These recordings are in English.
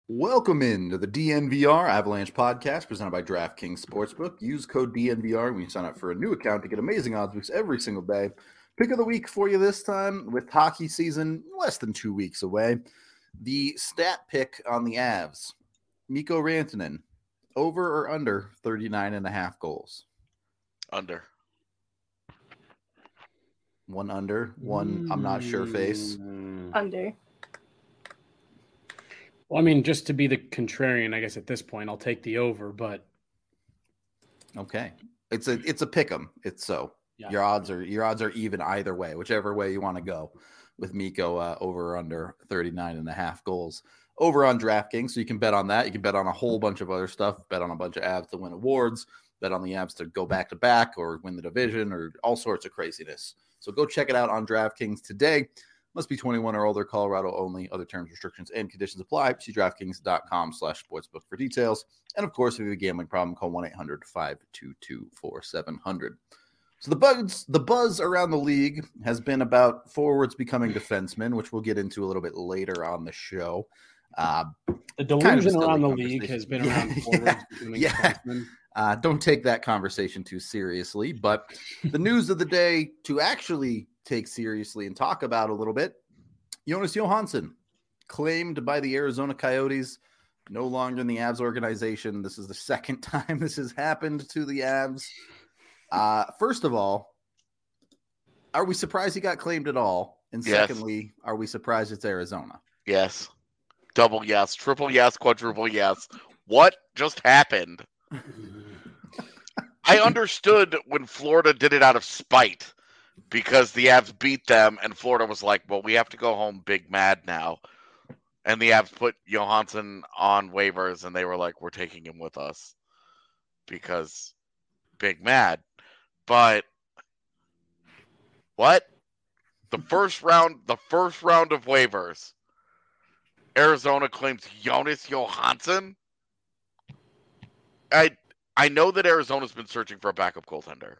Welcome into the DNVR Avalanche podcast presented by DraftKings Sportsbook. Use code DNVR when you sign up for a new account to get amazing odds boosts every single day. Pick of the week for you this time with hockey season less than 2 weeks away. The stat pick on the Avs, Mikko Rantanen, over or under 39.5 goals? Under. One under, one I'm not sure face. Under. Well, I mean, just to be the contrarian, I guess at this point, I'll take the over, but okay, it's a pick 'em. It's so yeah. Your odds are even either way, whichever way you want to go with Mikko over or under 39.5 goals over on DraftKings. So you can bet on that. You can bet on a whole bunch of other stuff. Bet on a bunch of Avs to win awards. Bet on the Avs to go back to back or win the division or all sorts of craziness. So go check it out on DraftKings today. Must be 21 or older, Colorado only. Other terms, restrictions, and conditions apply. See DraftKings.com/sportsbook for details. And, of course, if you have a gambling problem, call 1-800-522-4700. So the buzz around the league has been about forwards becoming defensemen, which we'll get into a little bit later on the show. The delusion around the league has been around forwards becoming defensemen. Don't take that conversation too seriously. But the news of the day to actually take seriously and talk about a little bit, Jonas Johansson claimed by the Arizona Coyotes, no longer in the Avs organization. This is the second time this has happened to the Avs. First of all, are we surprised he got claimed at all? And secondly, are we surprised it's Arizona? Yes. Double yes, triple yes, quadruple yes. What just happened? I understood when Florida did it out of spite because the Avs beat them and Florida was like, well, we have to go home big mad now. And the Avs put Johansson on waivers and they were like, we're taking him with us because big mad. But what? The first round of waivers, Arizona claims Jonas Johansson. I know that Arizona's been searching for a backup goaltender.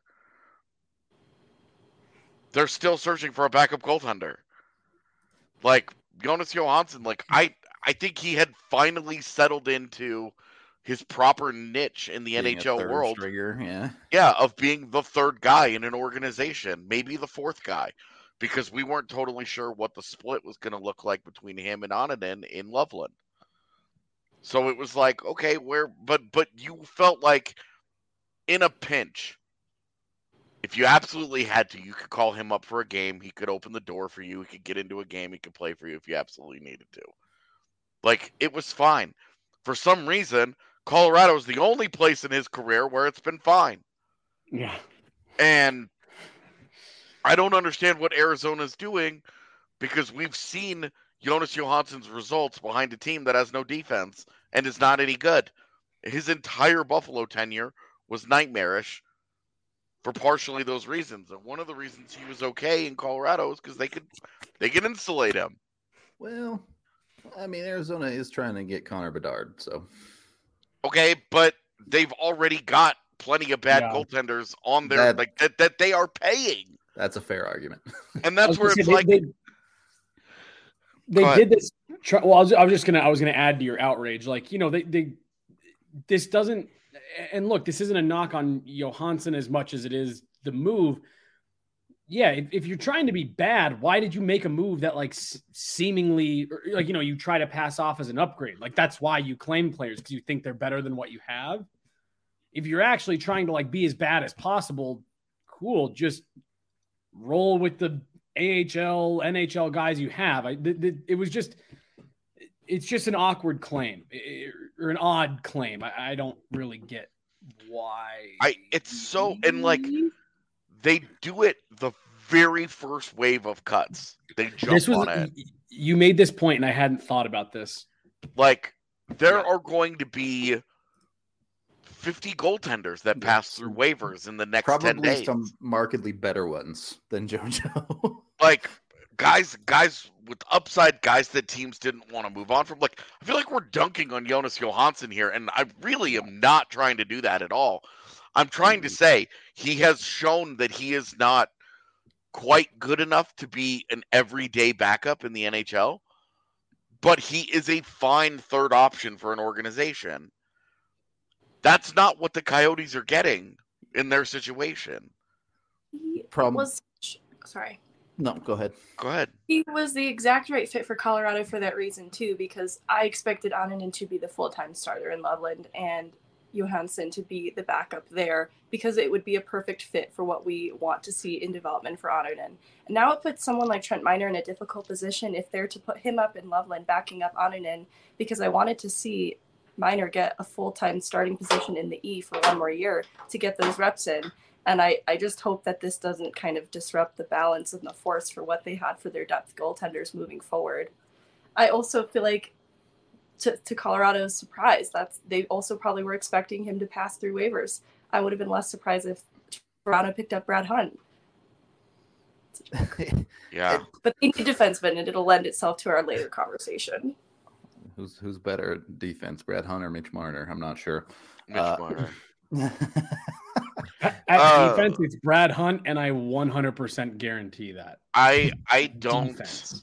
They're still searching for a backup goaltender. Like, Jonas Johansson, I think he had finally settled into his proper niche in the NHL world. Stringer, yeah, of being the third guy in an organization, maybe the fourth guy, because we weren't totally sure what the split was going to look like between him and Onanen in Loveland. So it was like, okay, but you felt like in a pinch, if you absolutely had to, you could call him up for a game. He could open the door for you. He could get into a game. He could play for you if you absolutely needed to. Like, it was fine. For some reason, Colorado is the only place in his career where it's been fine. Yeah. And I don't understand what Arizona's doing because we've seen Jonas Johansson's results behind a team that has no defense and is not any good. His entire Buffalo tenure was nightmarish for partially those reasons. And one of the reasons he was okay in Colorado is because they could insulate him. Well, I mean, Arizona is trying to get Connor Bedard, so. Okay, but they've already got plenty of bad goaltenders on their that they are paying. That's a fair argument. And that's where it's they did this. Well, I was going to add to your outrage. Like, this doesn't, and look, this isn't a knock on Johansson as much as it is the move. Yeah. If you're trying to be bad, why did you make a move that seemingly you try to pass off as an upgrade? Like, that's why you claim players, because you think they're better than what you have. If you're actually trying to be as bad as possible, cool. Just roll with the AHL, NHL guys you have. It's just an awkward claim or an odd claim. I don't really get why. They do it the very first wave of cuts. They jump on it. You made this point, and I hadn't thought about this. There are going to be 50 goaltenders that pass through waivers in the next 10 days. Probably some markedly better ones than JoJo. Guys with upside, guys that teams didn't want to move on from. I feel like we're dunking on Jonas Johansson here, and I really am not trying to do that at all. I'm trying to say he has shown that he is not quite good enough to be an everyday backup in the NHL, but he is a fine third option for an organization. That's not what the Coyotes are getting in their situation. Sorry. No, go ahead. Go ahead. He was the exact right fit for Colorado for that reason, too, because I expected Annunen to be the full-time starter in Loveland and Johansson to be the backup there, because it would be a perfect fit for what we want to see in development for Annunen. And now it puts someone like Trent Miner in a difficult position if they're to put him up in Loveland backing up Annunen, because I wanted to see Miner get a full-time starting position in the E for one more year to get those reps in. And I just hope that this doesn't kind of disrupt the balance and the force for what they had for their depth goaltenders moving forward. I also feel like, to Colorado's surprise, they also probably were expecting him to pass through waivers. I would have been less surprised if Toronto picked up Brad Hunt. Yeah. But they need defensemen, and it'll lend itself to our later conversation. Who's better at defense, Brad Hunt or Mitch Marner? I'm not sure. Mitch Marner. At defense, it's Brad Hunt, and I 100% guarantee that. I don't. Defense.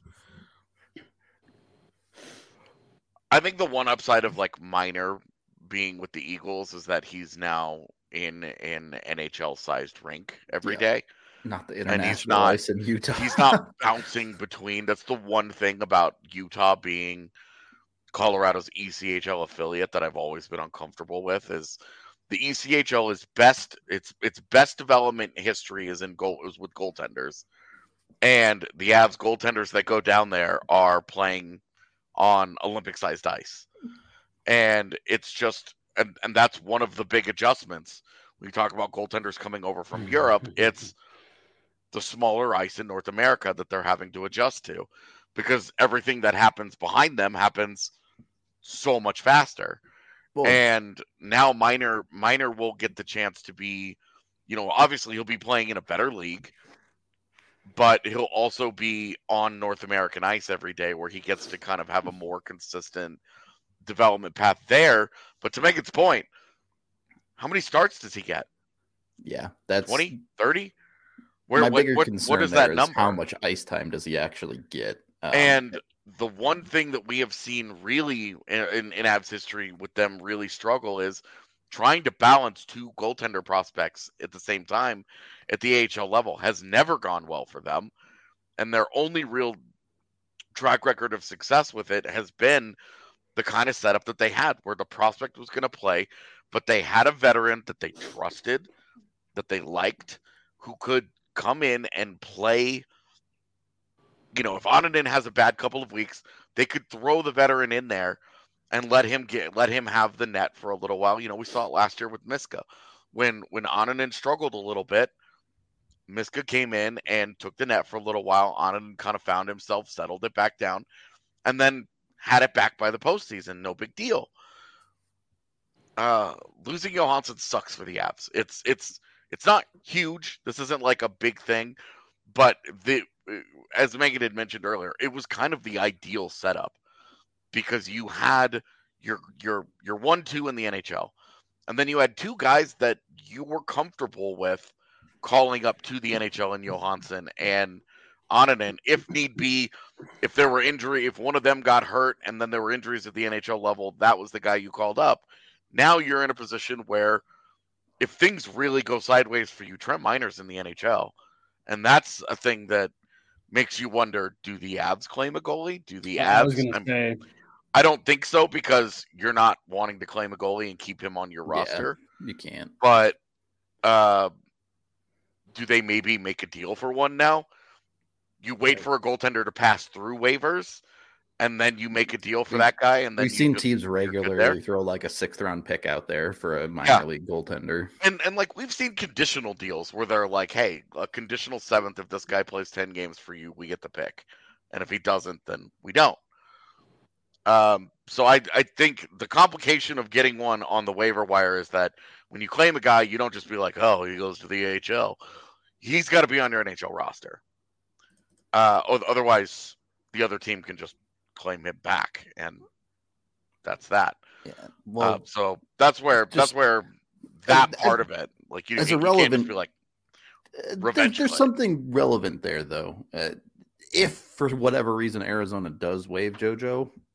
I think the one upside of like Miner being with the Eagles is that he's now in an NHL-sized rink every day. Not the international ice in Utah. He's not bouncing between. That's the one thing about Utah being Colorado's ECHL affiliate that I've always been uncomfortable with. Is the ECHL is best. Its best development history is with goaltenders, and the Avs goaltenders that go down there are playing on Olympic-sized ice, and it's just and that's one of the big adjustments when you talk about goaltenders coming over from Europe. It's the smaller ice in North America that they're having to adjust to, because everything that happens behind them happens so much faster. Well, and now Miner will get the chance to be, obviously he'll be playing in a better league, but he'll also be on North American ice every day where he gets to kind of have a more consistent development path there. But to make its point, how many starts does he get? Yeah, that's 20, 30? My bigger concern is how much ice time does he actually get? And the one thing that we have seen really in Avs history with them really struggle is trying to balance two goaltender prospects at the same time at the AHL level has never gone well for them. And their only real track record of success with it has been the kind of setup that they had where the prospect was going to play, but they had a veteran that they trusted, that they liked, who could come in and play. If Annunen has a bad couple of weeks, they could throw the veteran in there and let him have the net for a little while. We saw it last year with Miska. When Annunen struggled a little bit, Miska came in and took the net for a little while. Annunen kind of found himself, settled it back down, and then had it back by the postseason. No big deal. Losing Johansson sucks for the Avs. It's not huge. This isn't like a big thing, but as Megan had mentioned earlier, it was kind of the ideal setup because you had your 1-2 in the NHL, and then you had two guys that you were comfortable with calling up to the NHL in Johansson and Annunen, if need be. If there were injury, if one of them got hurt and then there were injuries at the NHL level, that was the guy you called up. Now you're in a position where if things really go sideways for you, Trent Miner's in the NHL. And that's a thing that makes you wonder, do the Avs claim a goalie? Do the Avs? I don't think so, because you're not wanting to claim a goalie and keep him on your roster. You can't. But do they maybe make a deal for one now? You wait for a goaltender to pass through waivers, and then you make a deal for that guy. And then we've seen teams regularly throw like a 6th-round pick out there for a minor league goaltender. And like we've seen conditional deals where they're like, hey, a conditional 7th, if this guy plays 10 games for you, we get the pick. And if he doesn't, then we don't. So I think the complication of getting one on the waiver wire is that when you claim a guy, you don't just be like, oh, he goes to the AHL. He's got to be on your NHL roster. Otherwise, the other team can just claim him back, and that's that. Yeah. Well, so that's where that part of it, like you can't just be like revenge. There's something relevant there, though. If for whatever reason Arizona does waive JoJo,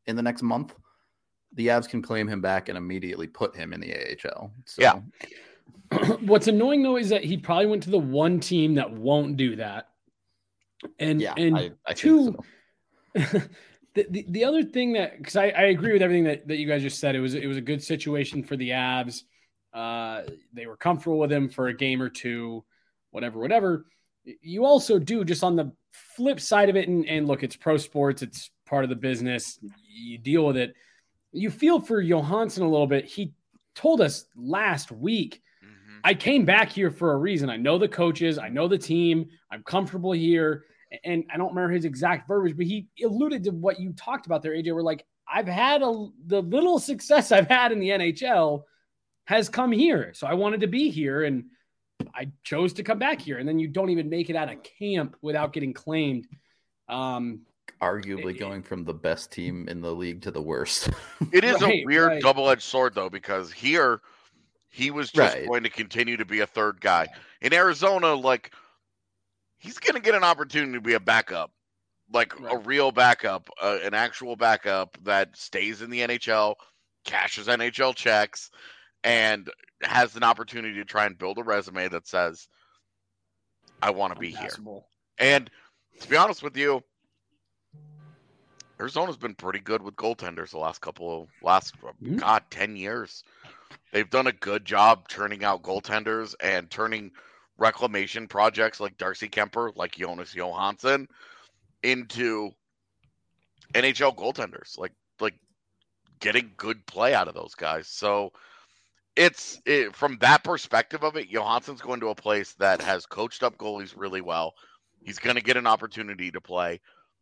in the next month, the Avs can claim him back and immediately put him in the AHL. So. Yeah. What's annoying though is that he probably went to the one team that won't do that. And I two, so. the other thing that, because I agree with everything that you guys just said, it was a good situation for the Avs. They were comfortable with him for a game or two, whatever. You also do, just on the flip side of it, and look, it's pro sports, it's part of the business, you deal with it. You feel for Johansson a little bit. He told us last week, I came back here for a reason. I know the coaches, I know the team, I'm comfortable here. And I don't remember his exact verbiage, but he alluded to what you talked about there, AJ, where like, I've had the little success I've had in the NHL has come here. So I wanted to be here and I chose to come back here. And then you don't even make it out of camp without getting claimed. Arguably going from the best team in the league to the worst. It is a weird double-edged sword, though, because here he was just going to continue to be a third guy. In Arizona, like, he's going to get an opportunity to be a backup, like a real backup, an actual backup that stays in the NHL, cashes NHL checks, and has an opportunity to try and build a resume that says, I want to be here. And to be honest with you, Arizona's been pretty good with goaltenders the last 10 years. They've done a good job turning out goaltenders and turning reclamation projects like Darcy Kemper, like Jonas Johansson, into NHL goaltenders, like getting good play out of those guys. So from that perspective of it, Johansson's going to a place that has coached up goalies really well. He's going to get an opportunity to play.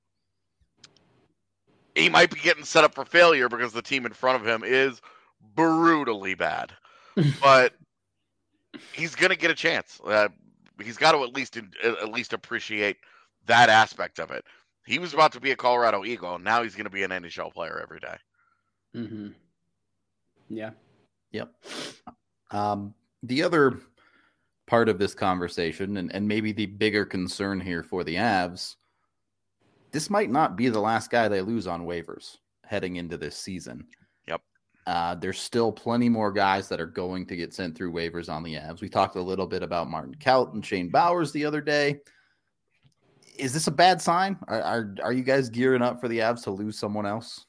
He might be getting set up for failure because the team in front of him is brutally bad, but he's going to get a chance. He's got to at least appreciate that aspect of it. He was about to be a Colorado Eagle, and now he's going to be an NHL player every day. Mm-hmm. Yeah. Yep. The other part of this conversation, and maybe the bigger concern here for the Avs, this might not be the last guy they lose on waivers heading into this season. Yep. There's still plenty more guys that are going to get sent through waivers on the Avs. We talked a little bit about Martin Kaut and Shane Bowers the other day. Is this a bad sign? Are you guys gearing up for the Avs to lose someone else?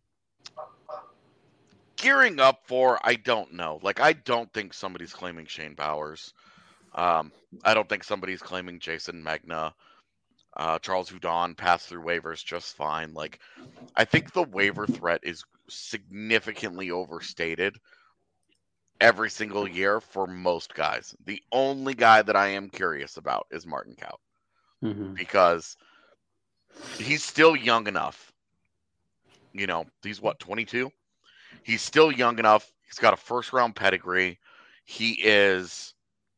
Gearing up for, I don't know. Like, I don't think somebody's claiming Shane Bowers. I don't think somebody's claiming Jason Megna. Charles Hudon passed through waivers just fine. Like, I think the waiver threat is significantly overstated every single year for most guys. The only guy that I am curious about is Martin Kaut. Because he's still young enough. You know, he's 22? He's still young enough. He's got a first-round pedigree. He is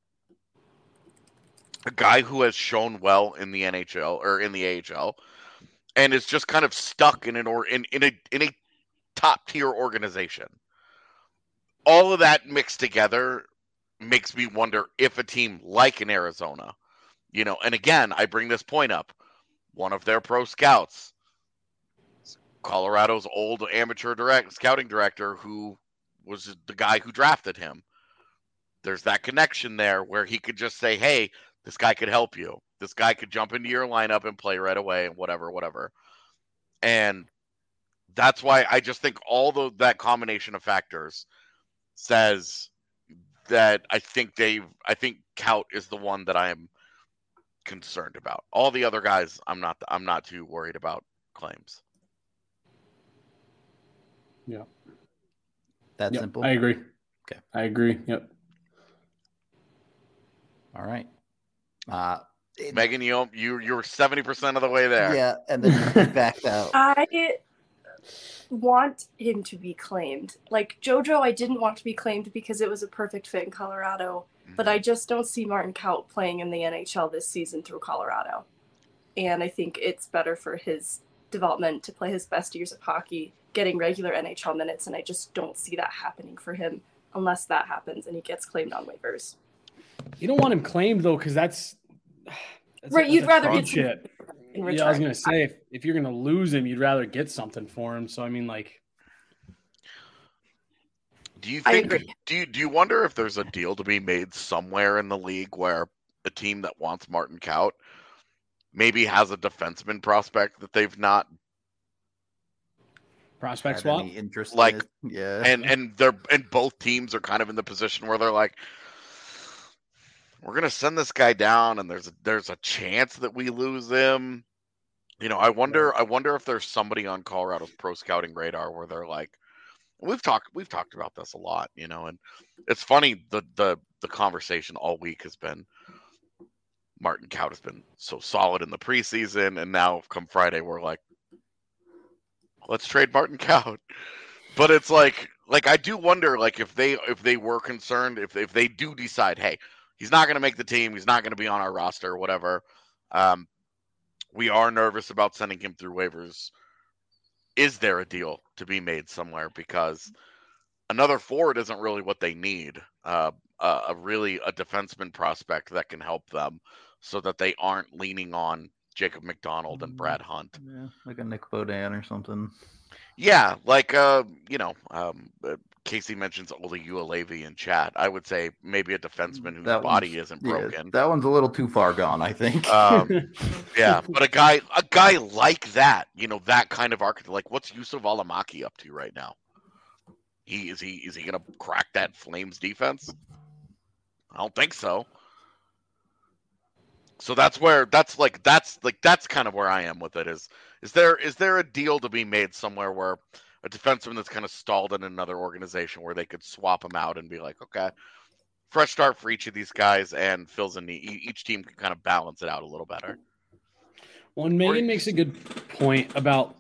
a guy who has shown well in the NHL or in the AHL, and is just kind of stuck in a top-tier organization. All of that mixed together makes me wonder if a team like in Arizona, you know, and again, I bring this point up. One of their pro scouts, Colorado's old amateur scouting director, who was the guy who drafted him. There's that connection there where he could just say, hey, this guy could help you. This guy could jump into your lineup and play right away and whatever. And that's why I just think that combination of factors says that I think Kaut is the one that I am concerned about. All the other guys, I'm not too worried about claims. Yeah. That simple? I agree. Okay. I agree. Yep. All right. Megan, you're 70% of the way there. Yeah, and then you backed out. I want him to be claimed. Like JoJo, I didn't want to be claimed because it was a perfect fit in Colorado, but I just don't see Martin Kaut playing in the NHL this season through Colorado. And I think it's better for his development to play his best years of hockey, getting regular NHL minutes, and I just don't see that happening for him unless that happens and he gets claimed on waivers. You don't want him claimed though, because that's right. You'd rather get shit. in return. Yeah, I was gonna say if you're gonna lose him, you'd rather get something for him. So I mean, like, do you think? Do you wonder if there's a deal to be made somewhere in the league where a team that wants Martin Kaut maybe has a defenseman prospect that they've not prospect swap interest, like, yeah, and both teams are kind of in the position where they're like, we're gonna send this guy down, and there's a chance that we lose him. You know, I wonder if there's somebody on Colorado's pro scouting radar where they're like, we've talked about this a lot, you know, and it's funny the conversation all week has been Martin Kaut has been so solid in the preseason, and now come Friday we're like, let's trade Martin Kaut. But it's like I do wonder, like, if they were concerned, if they do decide, hey, he's not going to make the team, he's not going to be on our roster, whatever. We are nervous about sending him through waivers. Is there a deal to be made somewhere? Because another forward isn't really what they need. A defenseman prospect that can help them, so that they aren't leaning on Jacob McDonald and Brad Hunt. Yeah, like a Nick Beaudin or something. Yeah, like Casey mentions Ole Uelevi in chat. I would say maybe a defenseman whose body isn't broken. Yeah, that one's a little too far gone, I think. Yeah, but a guy like that, you know, that kind of archetype. Like, what's Yusuf Alamaki up to right now? Is he gonna crack that Flames defense? I don't think so. So that's kind of where I am with it. Is there a deal to be made somewhere where a defenseman that's kind of stalled in another organization where they could swap him out and be like, okay, fresh start for each of these guys and fills in each team can kind of balance it out a little better. Well, and Megan makes a good point about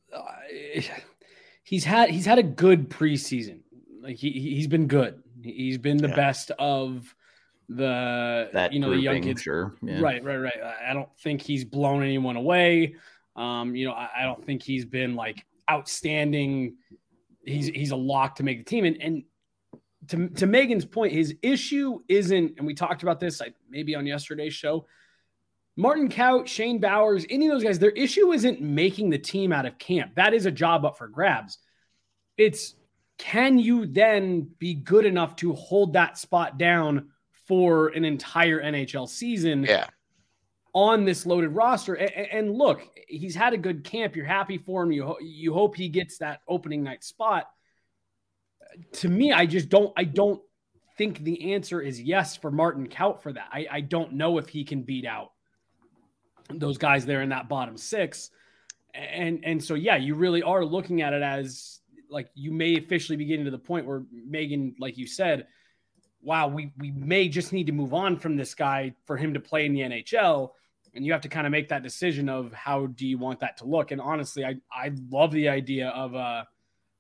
he's had a good preseason. Like he's been good. He's been the best of the the young kids. Sure. Yeah. Right. I don't think he's blown anyone away. I don't think he's been like outstanding. He's a lock to make the team. And to Megan's point, his issue isn't, and we talked about this maybe on yesterday's show, Martin Kaut, Shane Bowers, any of those guys, their issue isn't making the team out of camp. That is a job up for grabs. It's, can you then be good enough to hold that spot down for an entire NHL season? Yeah. On this loaded roster. And look, he's had a good camp. You're happy for him. You hope he gets that opening night spot. To me, I don't think the answer is yes for Martin Kaut for that. I don't know if he can beat out those guys there in that bottom six. And so, yeah, you really are looking at it as like, you may officially be getting to the point where, Megan, like you said, wow, we may just need to move on from this guy for him to play in the NHL. And you have to kind of make that decision of how do you want that to look. And honestly, I love the idea of a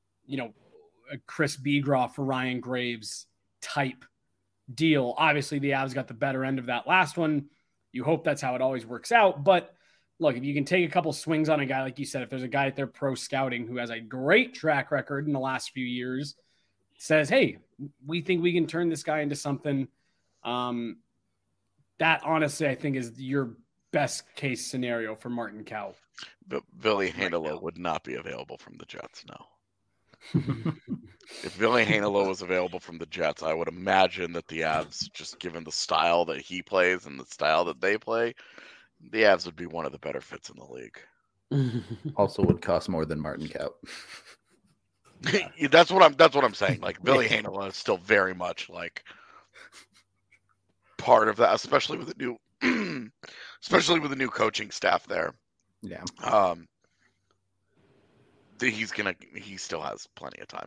Chris Begroff for Ryan Graves type deal. Obviously, the Avs got the better end of that last one. You hope that's how it always works out. But look, if you can take a couple swings on a guy, like you said, if there's a guy at their pro scouting who has a great track record in the last few years, says, hey, we think we can turn this guy into something. That honestly, I think, is your best case scenario for Martin Kaut. But Ville Heinola would not be available from the Jets, no. If Ville Heinola was available from the Jets, I would imagine that the Avs, just given the style that he plays and the style that they play, the Avs would be one of the better fits in the league. Also would cost more than Martin Kaut. That's what I'm saying. Like, Ville Heinola is still very much like part of that, especially with the new coaching staff there. Yeah. He still has plenty of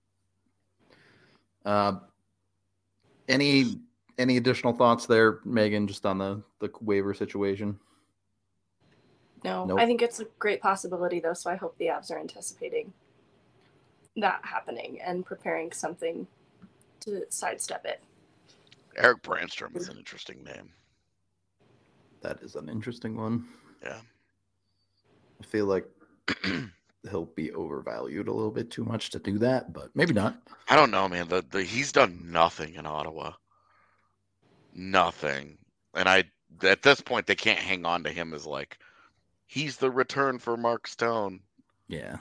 time. Any additional thoughts there, Megan, just on the waiver situation? No, Nope. I think it's a great possibility though. So I hope the Avs are anticipating that happening and preparing something to sidestep it. Eric Brandstrom is an interesting name. That is an interesting one. Yeah. I feel like he'll be overvalued a little bit too much to do that, but maybe not. I don't know, man. He's done nothing in Ottawa. Nothing. And at this point, they can't hang on to him as like He's the return for Mark Stone. Yeah.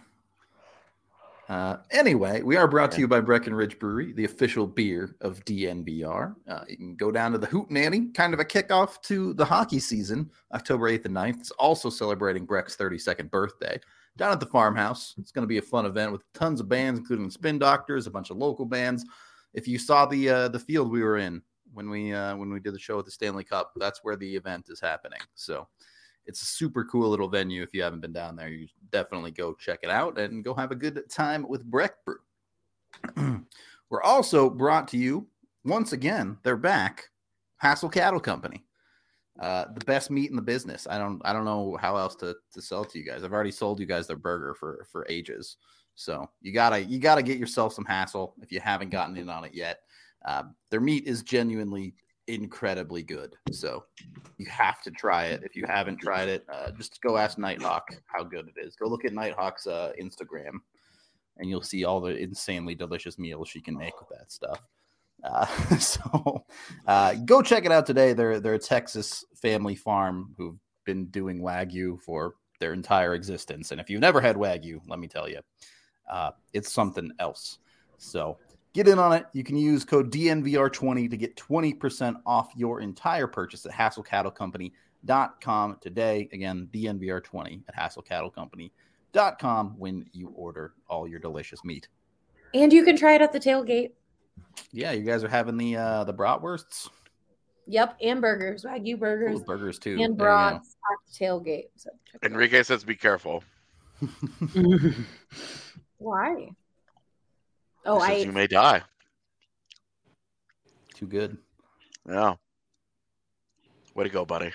Anyway, we are brought to you by Breckenridge Brewery, the official beer of DNVR. You can go down to the Hootenanny, kind of a kickoff to the hockey season, October 8th and 9th. It's also celebrating Breck's 32nd birthday down at the farmhouse. It's going to be a fun event with tons of bands, including Spin Doctors, a bunch of local bands. If you saw the field we were in when we did the show at the Stanley Cup, that's where the event is happening. So it's a super cool little venue. If you haven't been down there, you definitely go check it out and go have a good time with Breck Brew. We're also brought to you, once again, they're back, Hassel Cattle Company. The best meat in the business. I don't know how else to sell it to you guys. I've already sold you guys their burger for ages. So you gotta get yourself some Hassel if you haven't gotten in on it yet. Their meat is genuinely incredibly good, so you have to try it. If you haven't tried it, just go ask Nighthawk how good it is. Go look at Nighthawk's Instagram, and you'll see all the insanely delicious meals she can make with that stuff. So go check it out today. They're a Texas family farm who've been doing Wagyu for their entire existence, and if you've never had Wagyu, let me tell you, it's something else. So get in on it. You can use code DNVR20 to get 20% off your entire purchase at HassleCattleCompany.com today. Again, DNVR20 at HassleCattleCompany.com when you order all your delicious meat. And you can try it at the tailgate. Yeah, you guys are having the bratwursts. Yep, and burgers, Wagyu burgers. Ooh, burgers too. And brats at the tailgate. So Enrique says be careful. Why? Oh, you may die. Too good. Yeah. Way to go, buddy.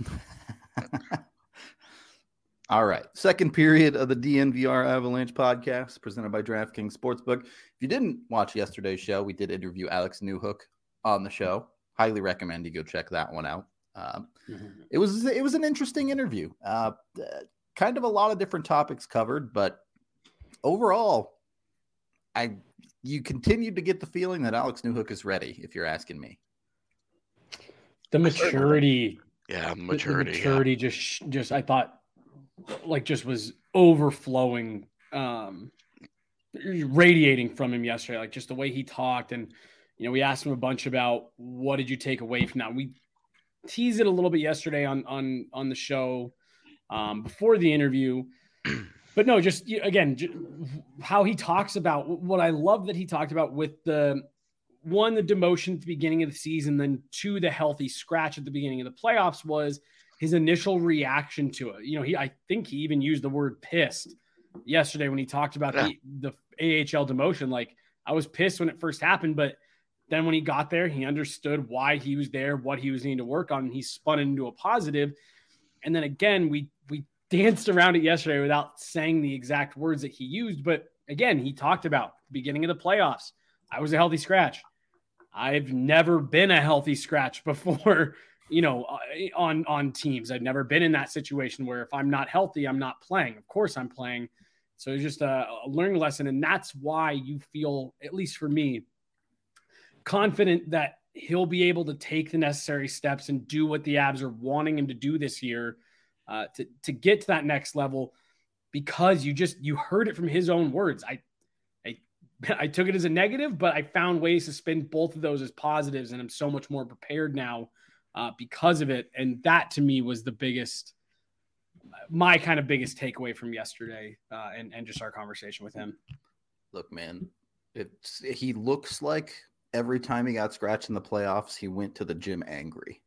All right. Second period of the DNVR Avalanche podcast presented by DraftKings Sportsbook. If you didn't watch yesterday's show, we did interview Alex Newhook on the show. Highly recommend you go check that one out. It was an interesting interview. Kind of a lot of different topics covered, but overall, you continued to get the feeling that Alex Newhook is ready, if you're asking me. The maturity. Yeah, the maturity just I thought just was overflowing, radiating from him yesterday. Like just the way he talked, and we asked him a bunch about what did you take away from that. We teased it a little bit yesterday on the show before the interview. But no, just how he talks about what I love that he talked about with the demotion at the beginning of the season, then two, the healthy scratch at the beginning of the playoffs was his initial reaction to it. I think he even used the word pissed yesterday when he talked about the AHL demotion. Like, I was pissed when it first happened, but then when he got there, he understood why he was there, what he was needing to work on, and he spun it into a positive. And then again, we danced around it yesterday without saying the exact words that he used. But again, he talked about the beginning of the playoffs. I was a healthy scratch. I've never been a healthy scratch before, on teams. I've never been in that situation where if I'm not healthy, I'm not playing. Of course I'm playing. So it's just a learning lesson. And that's why you feel, at least for me, confident that he'll be able to take the necessary steps and do what the Avs are wanting him to do this year. To get to that next level, because you heard it from his own words. I took it as a negative, but I found ways to spin both of those as positives, and I'm so much more prepared now because of it. And that to me was my kind of biggest takeaway from yesterday and just our conversation with him. Look, man, he looks like every time he got scratched in the playoffs, he went to the gym angry.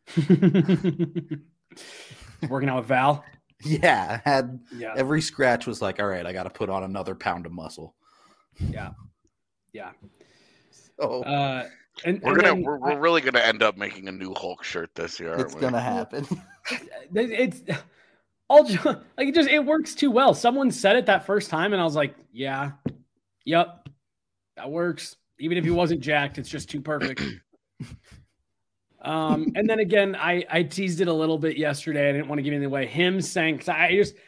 Working out with Val. Yeah. Every scratch was like, all right, I got to put on another pound of muscle. Yeah. So we're really going to end up making a new Hulk shirt this year. It's going to happen. It's all it works too well. Someone said it that first time and I was like, yeah, yep, that works. Even if he wasn't jacked, it's just too perfect. And then again, I teased it a little bit yesterday. I didn't want to give anything away. Him saying, cause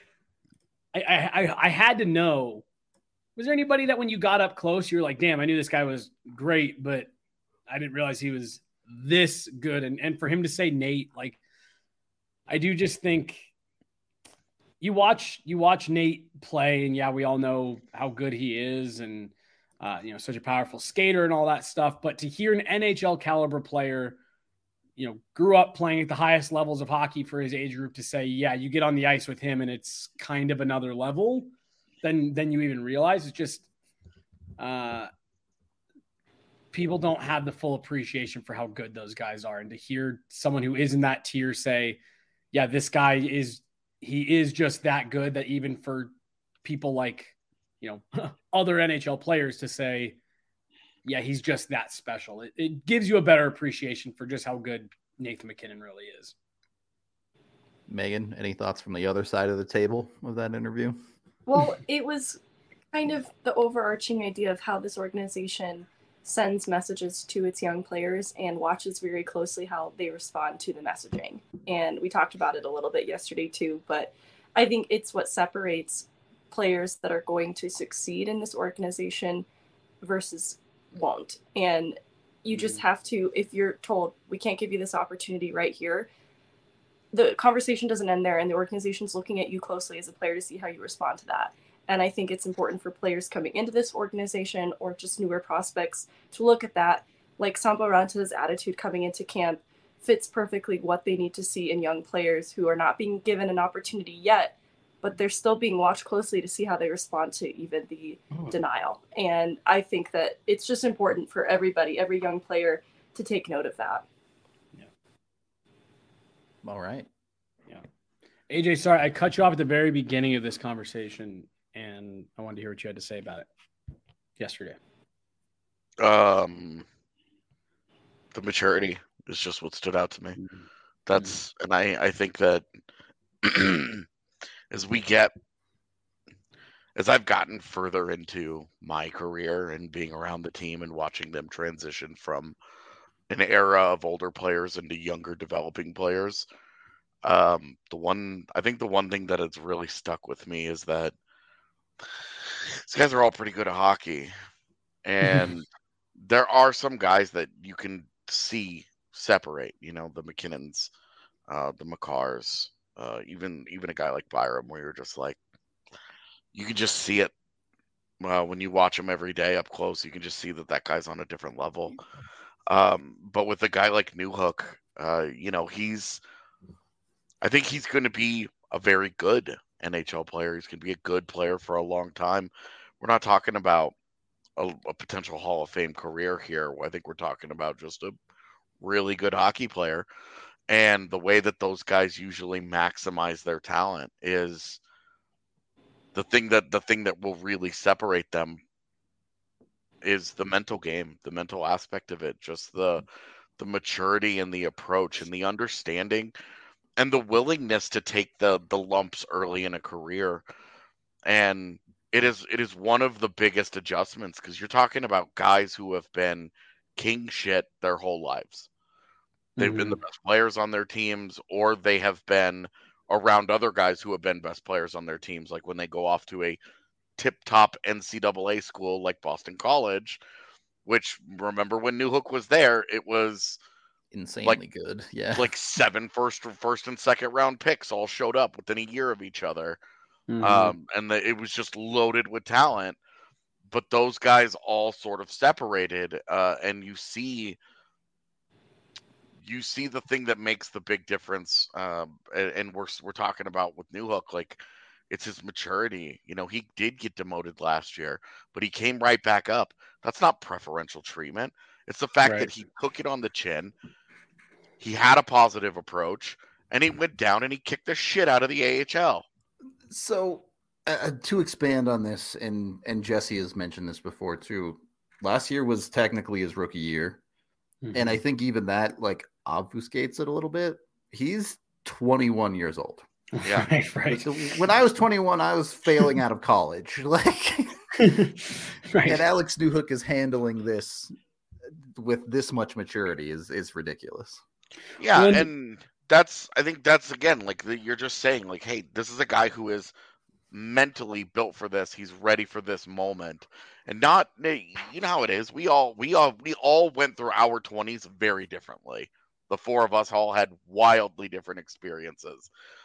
I had to know, was there anybody that when you got up close, you were like, damn, I knew this guy was great, but I didn't realize he was this good. And for him to say Nate, like, I do just think you watch Nate play, and yeah, we all know how good he is, and such a powerful skater and all that stuff. But to hear an NHL caliber player, grew up playing at the highest levels of hockey for his age group, to say, yeah, you get on the ice with him and it's kind of another level than you even realize. It's just people don't have the full appreciation for how good those guys are. And to hear someone who is in that tier say, yeah, this guy is just that good, that even for people like, other NHL players to say, yeah, he's just that special. It gives you a better appreciation for just how good Nathan MacKinnon really is. Megan, any thoughts from the other side of the table of that interview? Well, it was kind of the overarching idea of how this organization sends messages to its young players and watches very closely how they respond to the messaging. And we talked about it a little bit yesterday too, but I think it's what separates players that are going to succeed in this organization versus won't. And you just have to, if you're told we can't give you this opportunity right here, the conversation doesn't end there, and the organization's looking at you closely as a player to see how you respond to that. And I think it's important for players coming into this organization or just newer prospects to look at that. Like Sampo Ranta's attitude coming into camp fits perfectly what they need to see in young players who are not being given an opportunity yet, but they're still being watched closely to see how they respond to even the denial. And I think that it's just important for everybody, every young player, to take note of that. Yeah. All right. Yeah. AJ, sorry, I cut you off at the very beginning of this conversation, and I wanted to hear what you had to say about it yesterday. The maturity is just what stood out to me. That's, and I think that as I've gotten further into my career and being around the team and watching them transition from an era of older players into younger developing players, the one thing that has really stuck with me is that these guys are all pretty good at hockey, and there are some guys that you can see separate, the MacKinnons, the Makars, even a guy like Byram, where you're just like, you can just see it when you watch him every day up close. You can just see that guy's on a different level. But with a guy like Newhook, I think he's going to be a very good NHL player. He's going to be a good player for a long time. We're not talking about a potential Hall of Fame career here. I think we're talking about just a really good hockey player. And the way that those guys usually maximize their talent is the thing that will really separate them is the mental game, the mental aspect of it, just the maturity and the approach and the understanding and the willingness to take the lumps early in a career. And it is one of the biggest adjustments, because you're talking about guys who have been king shit their whole lives. They've been the best players on their teams, or they have been around other guys who have been best players on their teams. Like when they go off to a tip-top NCAA school like Boston College, which, remember when Newhook was there, it was insanely good. Yeah. Like 7 first and second round picks all showed up within a year of each other. And it was just loaded with talent. But those guys all sort of separated, and you see the thing that makes the big difference, and we're talking about with Newhook, like, it's his maturity. He did get demoted last year, but he came right back up. That's not preferential treatment. It's the fact that he took it on the chin. He had a positive approach, and he went down and he kicked the shit out of the AHL. So to expand on this, and Jesse has mentioned this before too, last year was technically his rookie year. And I think even that obfuscates it a little bit. He's 21 years old. Yeah. Right. When I was 21, I was failing out of college. And Alex Newhook is handling this with this much maturity is ridiculous. Yeah, and I think that's again, you're just saying, hey, this is a guy who is mentally built for this. He's ready for this moment, and not, how it is. We all went through our 20s very differently. The four of us all had wildly different experiences,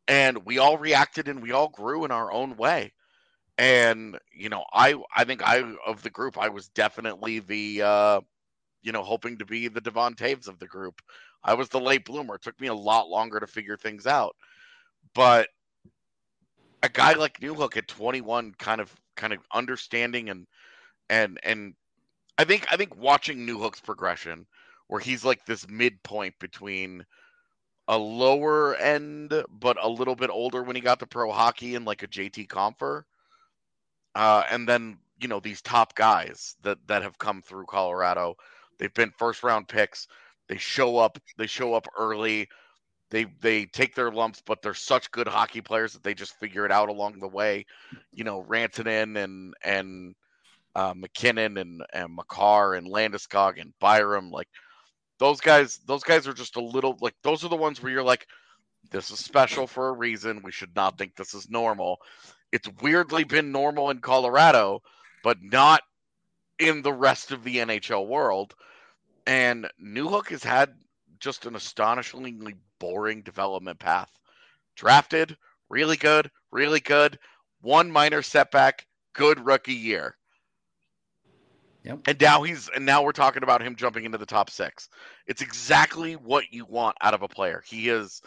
and we all reacted and we all grew in our own way. And, I think of the group, I was definitely the, hoping to be the Devon Taves of the group. I was the late bloomer. It took me a lot longer to figure things out. But a guy like Newhook at 21, kind of understanding and I think watching Newhook's progression, where he's like this midpoint between a lower end but a little bit older when he got to pro hockey and like a JT Compher, and then these top guys that have come through Colorado. They've been first round picks. They show up early. They take their lumps, but they're such good hockey players that they just figure it out along the way. Rantanen and McKinnon and Makar and Landeskog and Byram, like those guys are just a little, like, those are the ones where you're like, this is special for a reason. We should not think this is normal. It's weirdly been normal in Colorado, but not in the rest of the NHL world. And Newhook has had just an astonishingly boring development path. Drafted, really good. One minor setback, good rookie year. Yep. And now we're talking about him jumping into the top 6. It's exactly what you want out of a player. He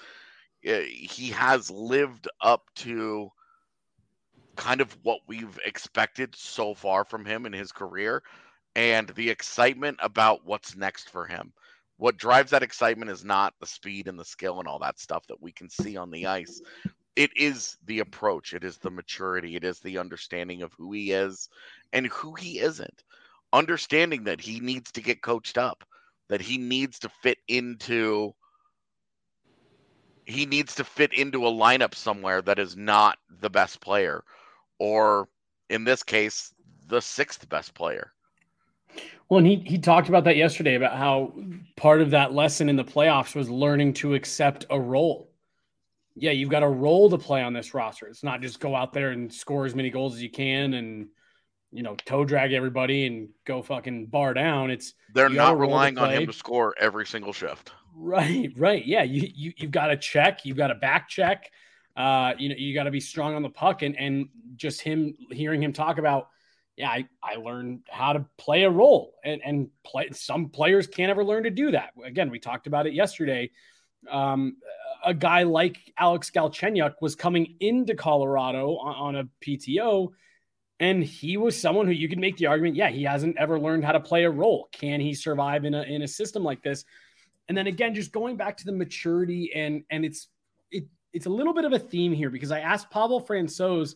has lived up to kind of what we've expected so far from him in his career, and the excitement about what's next for him. What drives that excitement is not the speed and the skill and all that stuff that we can see on the ice. It is the approach. It is the maturity. It is the understanding of who he is and who he isn't. Understanding that he needs to get coached up, that he needs to fit into a lineup somewhere that is not the best player, or in this case, the 6th best player. Well, and he talked about that yesterday, about how part of that lesson in the playoffs was learning to accept a role. Yeah, you've got a role to play on this roster. It's not just go out there and score as many goals as you can and, toe drag everybody and go fucking bar down. They're not relying on him to score every single shift. Right. Yeah, you've got to check. You've got to back check. You got to be strong on the puck, and just hearing him talk about, I learned how to play a role, and play. Some players can't ever learn to do that. Again, we talked about it yesterday. A guy like Alex Galchenyuk was coming into Colorado on a PTO, and he was someone who you could make the argument, he hasn't ever learned how to play a role. Can he survive in a system like this? And then again, just going back to the maturity, and it's a little bit of a theme here, because I asked Pavel Francouz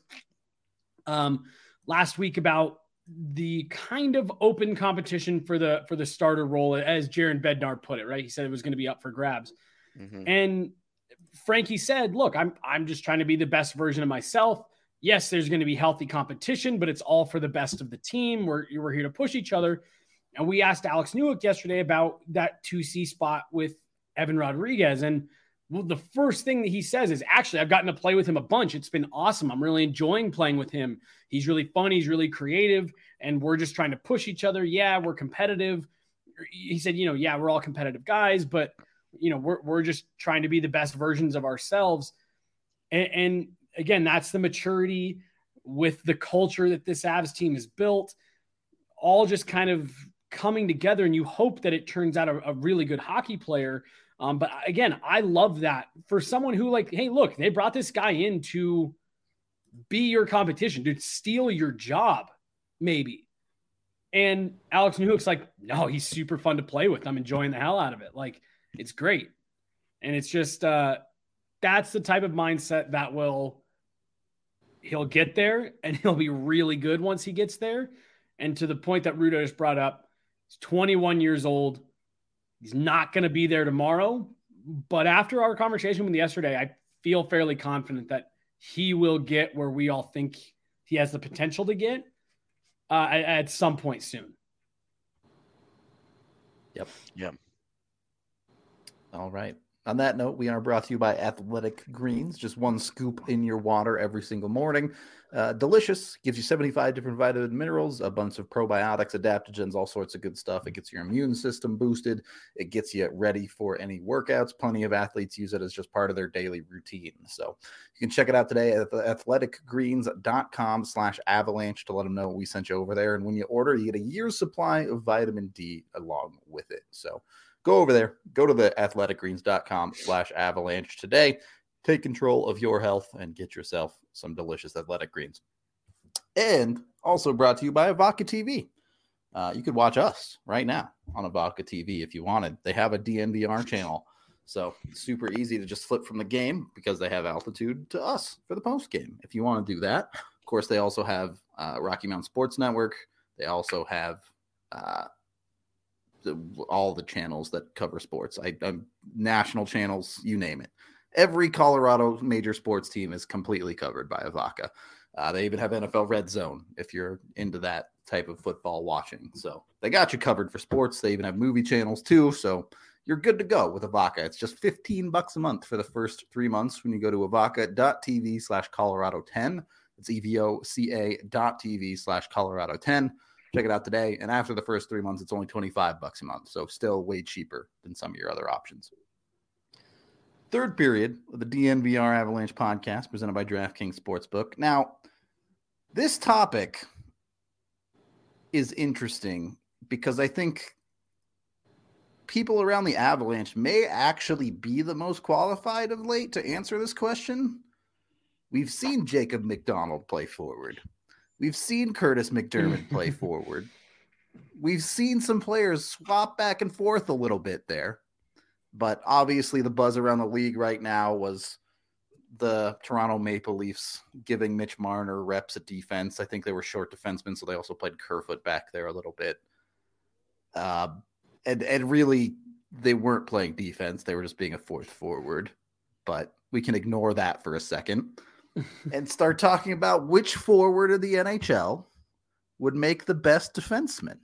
last week about the kind of open competition for the starter role, as Jaron Bednar put it, right? He said it was going to be up for grabs. Mm-hmm. And Frankie said, look, I'm just trying to be the best version of myself. Yes, there's going to be healthy competition, but it's all for the best of the team. We're here to push each other. And we asked Alex Newhook yesterday about that 2C spot with Evan Rodriguez. And the first thing that he says is, actually, I've gotten to play with him a bunch. It's been awesome. I'm really enjoying playing with him. He's really fun. He's really creative. And we're just trying to push each other. Yeah, we're competitive. He said, we're all competitive guys, but, we're just trying to be the best versions of ourselves. And again, that's the maturity with the culture that this Avs team has built, all just kind of coming together. And you hope that it turns out a really good hockey player. But again, I love that for someone who, like, hey, look, they brought this guy in to be your competition, to steal your job, maybe. And Alex Newhook's like, no, he's super fun to play with. I'm enjoying the hell out of it. Like, it's great. And it's just, that's the type of mindset that he'll get there, and he'll be really good once he gets there. And to the point that Rudo just brought up, he's 21 years old. He's not going to be there tomorrow, but after our conversation with him yesterday, I feel fairly confident that he will get where we all think he has the potential to get at some point soon. Yep. All right. On that note, we are brought to you by Athletic Greens. Just one scoop in your water every single morning. Delicious. Gives you 75 different vitamin minerals, a bunch of probiotics, adaptogens, all sorts of good stuff. It gets your immune system boosted. It gets you ready for any workouts. Plenty of athletes use it as just part of their daily routine. So you can check it out today at athleticgreens.com/avalanche to let them know we sent you over there. And when you order, you get a year's supply of vitamin D along with it. So go over there, go to the athleticgreens.com/avalanche today. Take control of your health and get yourself some delicious Athletic Greens. And also brought to you by Avaca TV. You could watch us right now on Avaca TV if you wanted. They have a DNVR channel. So it's super easy to just flip from the game because they have altitude to us for the post game if you want to do that. Of course, they also have Rocky Mountain Sports Network. They also have all the channels that cover sports, national channels, you name it. Every Colorado major sports team is completely covered by Avaca. They even have NFL Red Zone if you're into that type of football watching. So they got you covered for sports. They even have movie channels too. So you're good to go with Avaca. It's just $15 a month for the first 3 months when you go to avaca.tv/Colorado10. It's evoca.tv/Colorado10. Check it out today. And after the first 3 months, it's only $25 a month. So still way cheaper than some of your other options. Third period of the DNVR Avalanche podcast presented by DraftKings Sportsbook. Now, this topic is interesting because I think people around the Avalanche may actually be the most qualified of late to answer this question. We've seen Jacob McDonald play forward. We've seen Curtis McDermott play forward. We've seen some players swap back and forth a little bit there. But obviously the buzz around the league right now was the Toronto Maple Leafs giving Mitch Marner reps at defense. I think they were short defensemen, so they also played Kerfoot back there a little bit. And really, they weren't playing defense. They were just being a fourth forward. But we can ignore that for a second and start talking about which forward of the NHL would make the best defenseman.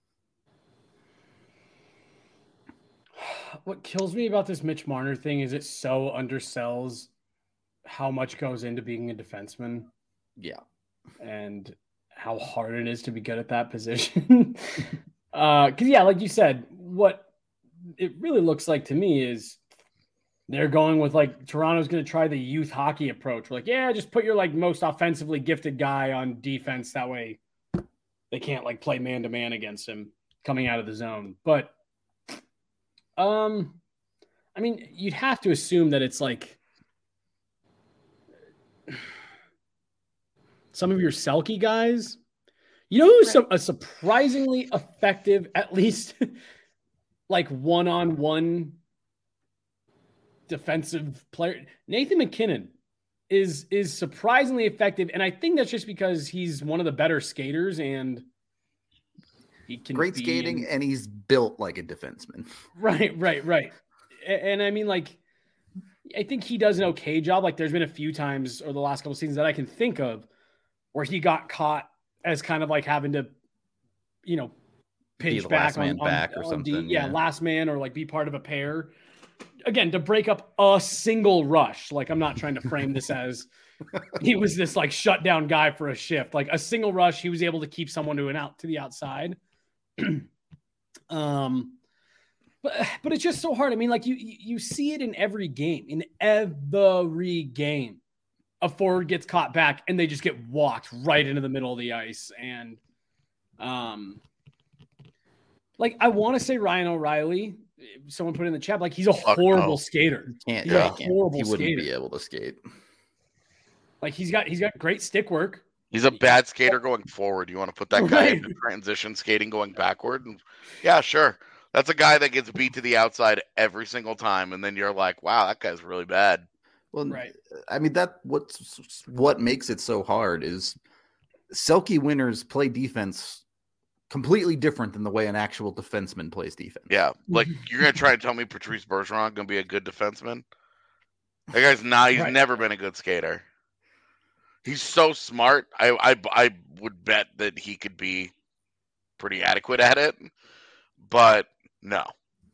What kills me about this Mitch Marner thing is it so undersells how much goes into being a defenseman. Yeah. And how hard it is to be good at that position. Because, yeah, like you said, what it really looks like to me is they're going with, like, Toronto's going to try the youth hockey approach. We're like, yeah, just put your, like, most offensively gifted guy on defense. That way they can't, like, play man-to-man against him coming out of the zone. But I mean, you'd have to assume that it's like some of your Selke guys. You know who's a surprisingly effective, at least like one-on-one defensive player? Nathan McKinnon is surprisingly effective, and I think that's just because he's one of the better skaters and he can great skating, and he's built like a defenseman. Right. And I mean, like, I think he does an okay job. Like, there's been a few times over the last couple of seasons that I can think of where he got caught as kind of like having to, you know, pinch back on or something. Last man, or like be part of a pair. Again, to break up a single rush. Like, I'm not trying to frame this as he was this like shutdown guy for a shift. Like a single rush, he was able to keep someone to the outside. But it's just so hard. I mean, like you see it in every game. In every game, a forward gets caught back and they just get walked right into the middle of the ice. And like I want to say Ryan O'Reilly. Someone put in the chat, like he's a horrible skater. He wouldn't be able to skate. Like he's got great stick work. He's a bad skater going forward. You want to put that guy into transition skating going backward? And yeah, sure. That's a guy that gets beat to the outside every single time. And then you're like, wow, that guy's really bad. Well, right. I mean, what makes it so hard is Selke winners play defense completely different than the way an actual defenseman plays defense. Yeah. Like you're going to try to tell me Patrice Bergeron going to be a good defenseman? That guy's not, he's never been a good skater. He's so smart. I would bet that he could be pretty adequate at it, but no.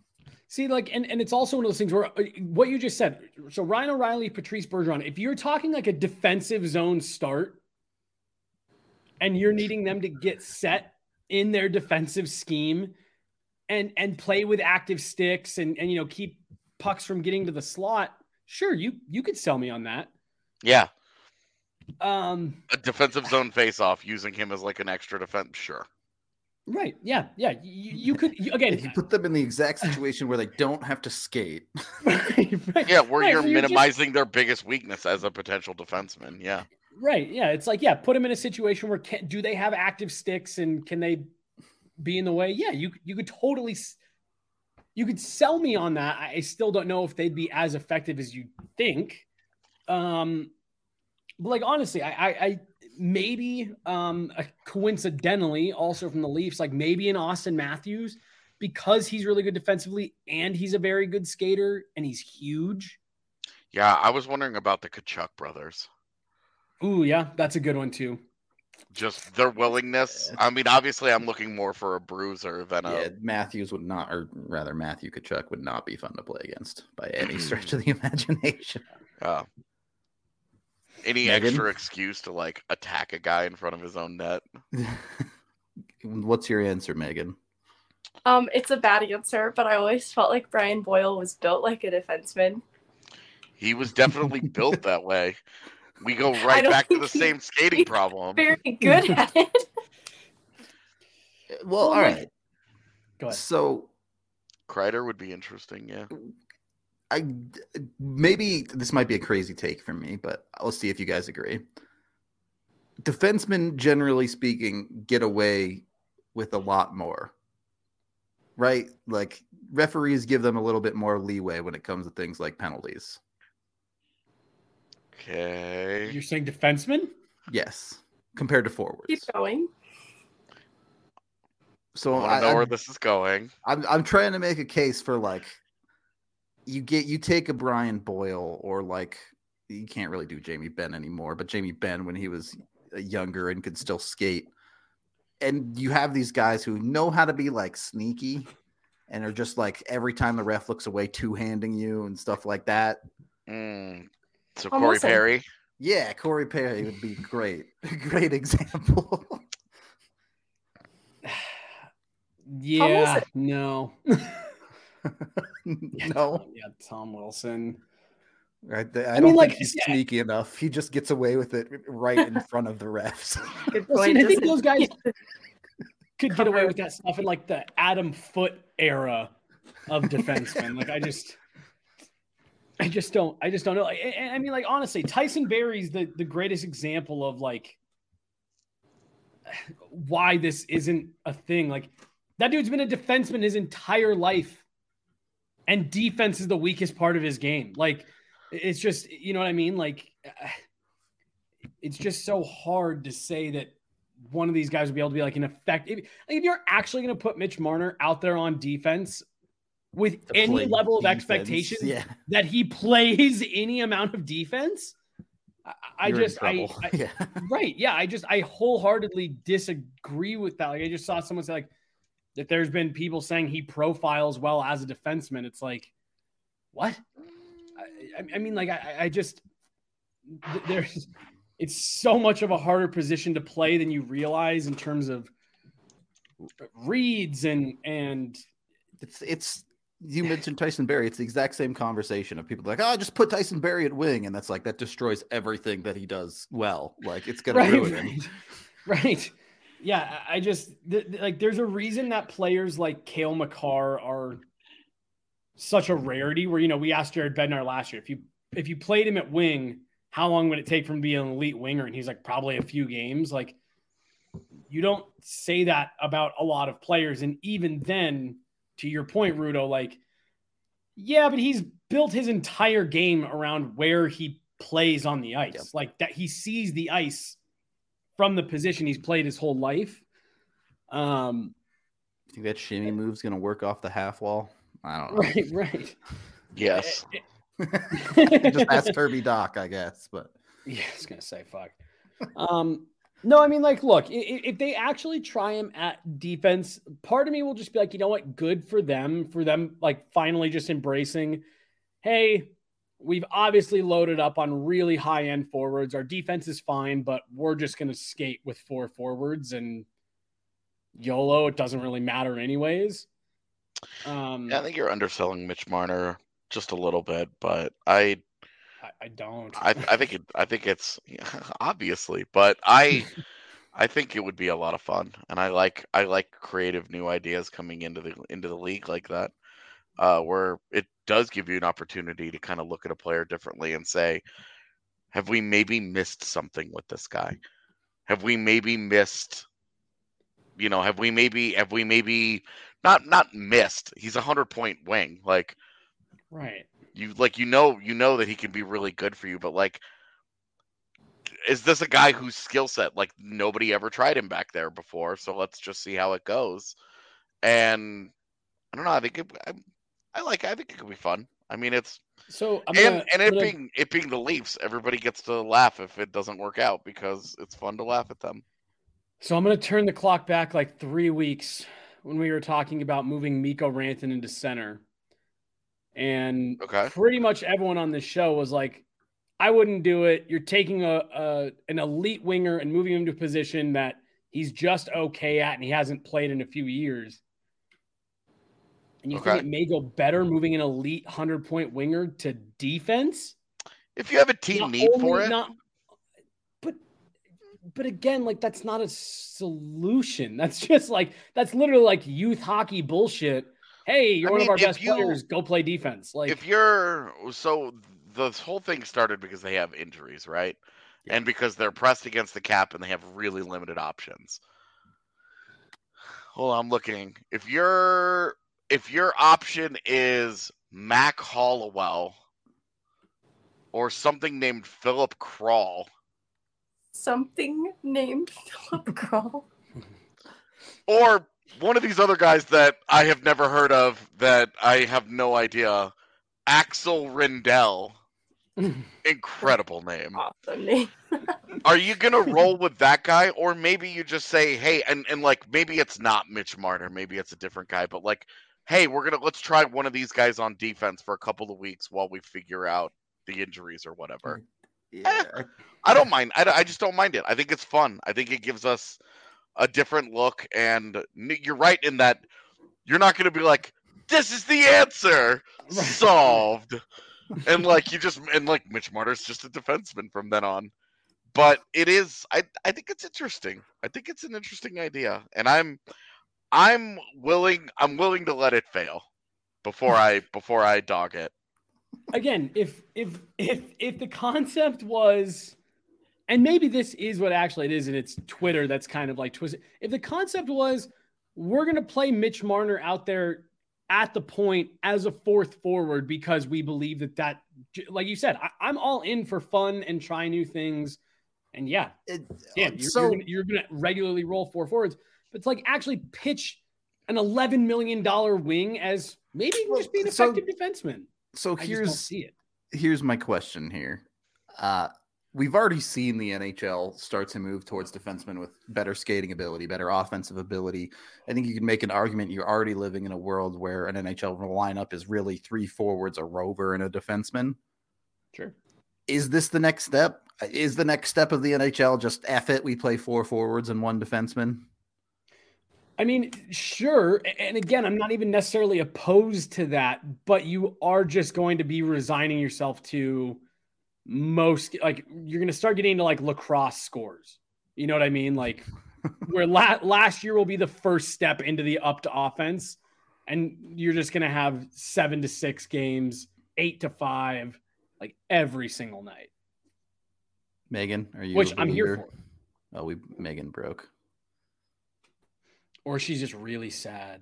See, like, and it's also one of those things where what you just said. So Ryan O'Reilly, Patrice Bergeron, if you're talking like a defensive zone start and you're needing them to get set in their defensive scheme and play with active sticks and keep pucks from getting to the slot, sure, you could sell me on that. Yeah. A defensive zone face-off using him as like an extra defense, sure. Right. Yeah. Yeah. You could again. If you put them in the exact situation where they don't have to skate. Right. Yeah, where you're minimizing their biggest weakness as a potential defenseman. Yeah. Right. Yeah. It's like, put them in a situation where do they have active sticks and can they be in the way? Yeah. You could totally. You could sell me on that. I still don't know if they'd be as effective as you think. But like honestly, I maybe coincidentally also from the Leafs, like maybe an Austin Matthews, because he's really good defensively and he's a very good skater and he's huge. Yeah, I was wondering about the Tkachuk brothers. Ooh, yeah, that's a good one too. Just their willingness. I mean, obviously I'm looking more for a bruiser than Matthews would not, or rather Matthew Tkachuk would not be fun to play against by any stretch of the imagination. Any extra excuse to like attack a guy in front of his own net? What's your answer, Megan? It's a bad answer, but I always felt like Brian Boyle was built like a defenseman. He was definitely built that way. We go right back to the same skating problem. Very good at it. Well, all right. Go ahead. So Kreider would be interesting, yeah. Maybe this might be a crazy take from me, but let's see if you guys agree. Defensemen, generally speaking, get away with a lot more, right? Like referees give them a little bit more leeway when it comes to things like penalties. Okay. You're saying defensemen? Yes, compared to forwards. Keep going. So I know where this is going. I'm trying to make a case for like you take a Brian Boyle, or like you can't really do Jamie Benn anymore, but Jamie Benn when he was younger and could still skate, and you have these guys who know how to be like sneaky and are just like every time the ref looks away two-handing you and stuff like that. So Corey Perry? Yeah, Corey Perry would be great. Great example. Yeah, no. No. Yeah, Tom Wilson. Right. I don't think he's sneaky enough. He just gets away with it right in front of the refs. Good point. I think those guys could get away with that stuff in like the Adam Foote era of defensemen. Like I just don't know. I mean, like honestly, Tyson Barrie's the greatest example of like why this isn't a thing. Like that dude's been a defenseman his entire life, and defense is the weakest part of his game. Like it's just, you know what I mean? Like it's just so hard to say that one of these guys would be able to be like an effective. If you're actually going to put Mitch Marner out there on defense with any level of expectation that he plays any amount of defense, I wholeheartedly disagree with that. Like I just saw someone say like that there's been people saying he profiles well as a defenseman. It's like, what? I mean, like it's so much of a harder position to play than you realize in terms of reads and it's you mentioned Tyson Barrie. It's the exact same conversation of people like, oh, just put Tyson Barrie at wing. And that's like, that destroys everything that he does well. Like it's going to ruin him. Right. Yeah. I just like, there's a reason that players like Cale Makar are such a rarity where, you know, we asked Jared Bednar last year, if you played him at wing, how long would it take for him to be an elite winger? And he's like, probably a few games. Like you don't say that about a lot of players. And even then, to your point, Rudo, like, yeah, but he's built his entire game around where he plays on the ice. Yep. Like that he sees the ice from the position he's played his whole life. You think that shimmy move's going to work off the half wall? I don't know. Right. Yes. Just ask Kirby Doc, I guess. But yeah, I was going to say, fuck. No, I mean, like, look, if they actually try him at defense, part of me will just be like, you know what? Good for them, like finally just embracing, hey, we've obviously loaded up on really high end forwards. Our defense is fine, but we're just going to skate with 4 forwards and YOLO. It doesn't really matter anyways. I think you're underselling Mitch Marner just a little bit, but I don't. I think it's obviously, but I think it would be a lot of fun, and I like creative new ideas coming into the league like that, where it does give you an opportunity to kind of look at a player differently and say, have we maybe missed something with this guy? Have we maybe missed? Have we maybe not missed? He's 100-point wing, like, right. You know that he can be really good for you, but like, is this a guy whose skill set, like, nobody ever tried him back there before? So let's just see how it goes. And I don't know. I think I think it could be fun. I mean, it's so it being the Leafs, everybody gets to laugh if it doesn't work out because it's fun to laugh at them. So I'm going to turn the clock back like 3 weeks when we were talking about moving Mikko Rantanen into center. And pretty much everyone on this show was like, I wouldn't do it. You're taking an elite winger and moving him to a position that he's just okay at and he hasn't played in a few years. And you think it may go better moving an elite 100-point winger to defense? If you have a team need for it. But again, like, that's not a solution. That's just like, that's literally like youth hockey bullshit. Hey, you're one of our best players. Go play defense. Like, so the whole thing started because they have injuries, right? Yeah. And because they're pressed against the cap and they have really limited options. Hold on, I'm looking. If your option is Mac Hollowell or something named Philip Kral. Something named Philip Kral. Or one of these other guys that I have never heard of that I have no idea. Axel Rindell. Incredible name. Awesome name. Are you going to roll with that guy? Or maybe you just say, hey, and like, maybe it's not Mitch Marner. Maybe it's a different guy. But like, hey, let's try one of these guys on defense for a couple of weeks while we figure out the injuries or whatever. Yeah. I don't mind. I just don't mind it. I think it's fun. I think it gives us a different look, and you're right in that you're not going to be like, this is the answer, solved. And like Mitch Marner's just a defenseman from then on. But it is, I think it's interesting. I think it's an interesting idea, and I'm willing to let it fail before I dog it. Again, if the concept was, and maybe this is what actually it is, and it's Twitter that's kind of like twisted. If the concept was, we're going to play Mitch Marner out there at the point as a 4th forward because we believe that, like you said, I'm all in for fun and try new things. And you're going to regularly roll 4 forwards, but it's like actually pitch an $11 million wing as maybe just be an effective defenseman. So here's my question here. We've already seen the NHL start to move towards defensemen with better skating ability, better offensive ability. I think you can make an argument you're already living in a world where an NHL lineup is really 3 forwards, a rover, and a defenseman. Sure. Is this the next step? Is the next step of the NHL just F it, we play 4 forwards and 1 defenseman? I mean, sure. And again, I'm not even necessarily opposed to that, but you are just going to be resigning yourself to most, like, you're going to start getting into like lacrosse scores. You know what I mean? Like, where last year will be the first step into the up to offense, and you're just going to have 7-6 games, 8-5, like every single night. Megan, are you? Which I'm here for. Oh, Megan broke. Or she's just really sad.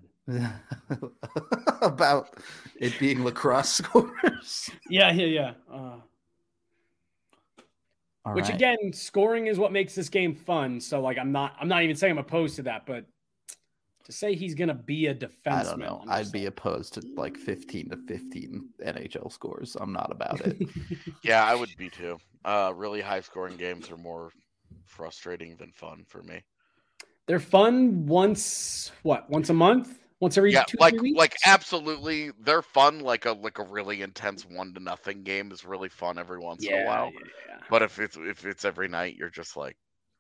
About it being lacrosse scores. Yeah. Which right. Again, scoring is what makes this game fun. So like, I'm not even saying I'm opposed to that, but to say he's going to be a defenseman. I don't know. I'd be opposed to like 15-15 NHL scores. I'm not about it. Yeah, I would be too. Really high scoring games are more frustrating than fun for me. They're fun once a month? Once every 2-3 weeks? Like absolutely, they're fun. Like a really intense 1-0 game is really fun every once in a while. Yeah. But if it's every night, you're just like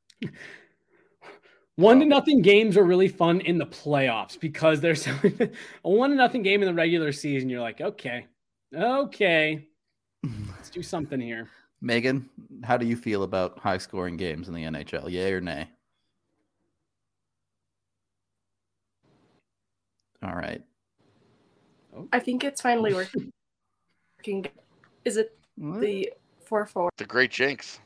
1-0 games are really fun in the playoffs because there's a 1-0 game in the regular season. You're like, okay, let's do something here. Megan, how do you feel about high scoring games in the NHL? Yay or nay? All right. I think it's finally working. Is it the 4-4? The Great Jinx.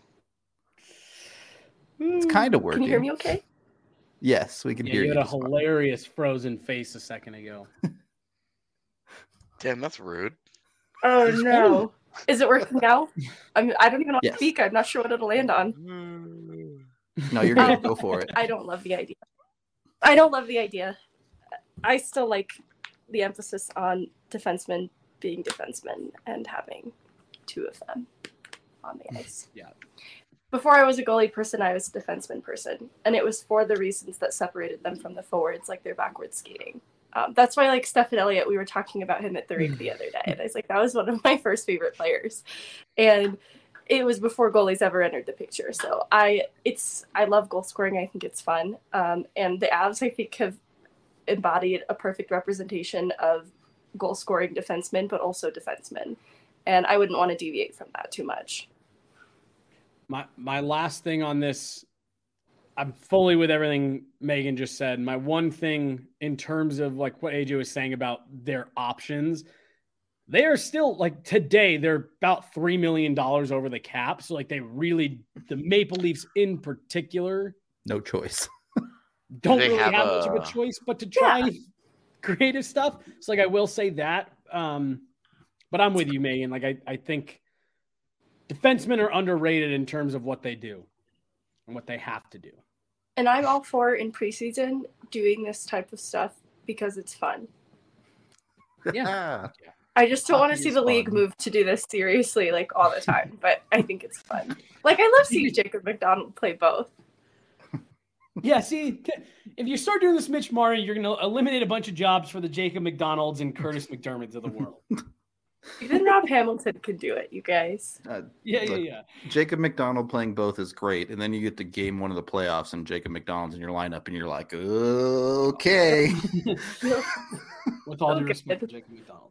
It's kind of working. Can you hear me okay? Yes, we can hear you. You had a hilarious frozen face a second ago. Damn, that's rude. Oh, no. Is it working now? I don't even know how to speak. I'm not sure what it'll land on. No, you're going to go for it. I don't love the idea. I still like the emphasis on defensemen being defensemen and having two of them on the ice. Yeah. Before I was a goalie person, I was a defenseman person. And it was for the reasons that separated them from the forwards, like their backward skating. That's why, like, Stephen Elliott, we were talking about him at the rink the other day. And I was like, that was one of my first favorite players. And it was before goalies ever entered the picture. So I love goal scoring. I think it's fun. And the Avs, I think, have embodied a perfect representation of goal scoring defensemen, but also defensemen. And I wouldn't want to deviate from that too much. My last thing on this, I'm fully with everything Megan just said. My one thing in terms of like what AJ was saying about their options, they are still like today, they're about $3 million over the cap. So like the Maple Leafs in particular, no choice. Don't really have much of a choice but to try creative stuff. So like I will say that. But I'm with you, Megan. Like I think defensemen are underrated in terms of what they do and what they have to do. And I'm all for in preseason doing this type of stuff because it's fun. Yeah. I just don't want to see the league move to do this seriously like all the time, but I think it's fun. Like I love seeing Jacob McDonald play both. Yeah, see, if you start doing this, Mitch Marner, you're going to eliminate a bunch of jobs for the Jacob McDonalds and Curtis McDermotts of the world. Even Rob Hamilton could do it, you guys. Yeah. Jacob McDonald playing both is great, and then you get to game one of the playoffs, and Jacob McDonald's in your lineup, and you're like, okay. With all due respect for Jacob McDonald.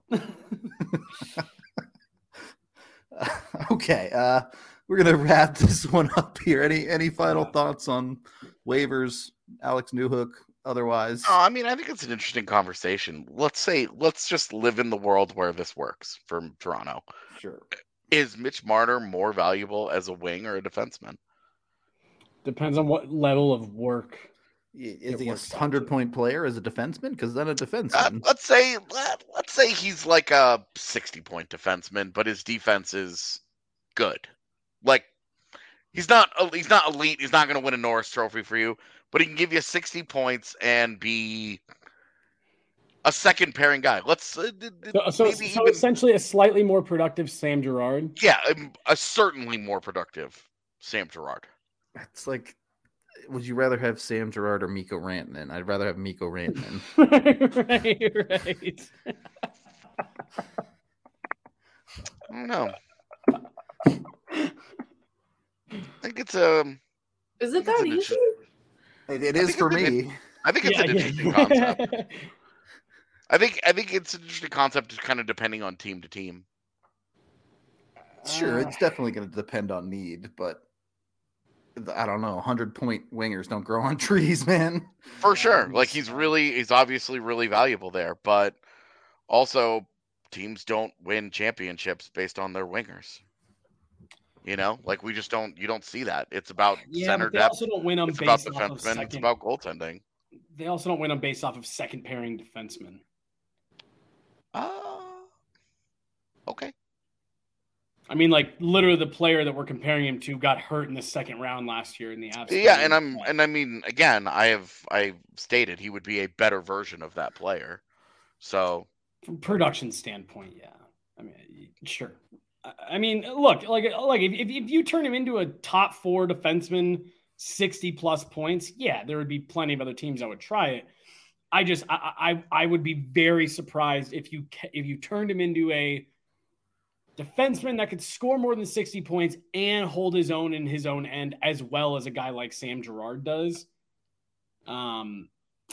Okay, we're gonna wrap this one up here. Any final thoughts on waivers, Alex Newhook? Otherwise, I mean, I think it's an interesting conversation. Let's just live in the world where this works for Toronto. Sure. Is Mitch Marner more valuable as a wing or a defenseman? Depends on what level of work. Is he a 100-point player as a defenseman? Because then a defenseman. Let's say he's like a 60-point defenseman, but his defense is good. Like he's not elite. He's not going to win a Norris Trophy for you, but he can give you 60 points and be a second pairing guy. So essentially a slightly more productive Sam Girard. Yeah, a certainly more productive Sam Girard. It's like, would you rather have Sam Girard or Mikko Rantanen? I'd rather have Mikko Rantanen. Right. I don't know. I think it's Is it that easy? It is for me. I think it's an interesting concept. I think it's an interesting concept, just kind of depending on team to team. Sure, it's definitely going to depend on need, but I don't know. 100-point wingers don't grow on trees, man. For sure, like he's obviously really valuable there, but also teams don't win championships based on their wingers. You know, like you don't see that. It's about center depth. Also don't win them it's based about off defensemen. It's about goaltending. They also don't win them based off of second pairing defensemen. Okay. I mean, like literally, the player that we're comparing him to got hurt in the second round last year in the Avs. Yeah, and I mean, again, I stated he would be a better version of that player. So, from production standpoint, yeah. I mean, sure. I mean, look, like if you turn him into a top 4 defenseman 60 plus points, yeah, there would be plenty of other teams that would try it. I would be very surprised if you turned him into a defenseman that could score more than 60 points and hold his own in his own end, as well as a guy like Sam Girard does. And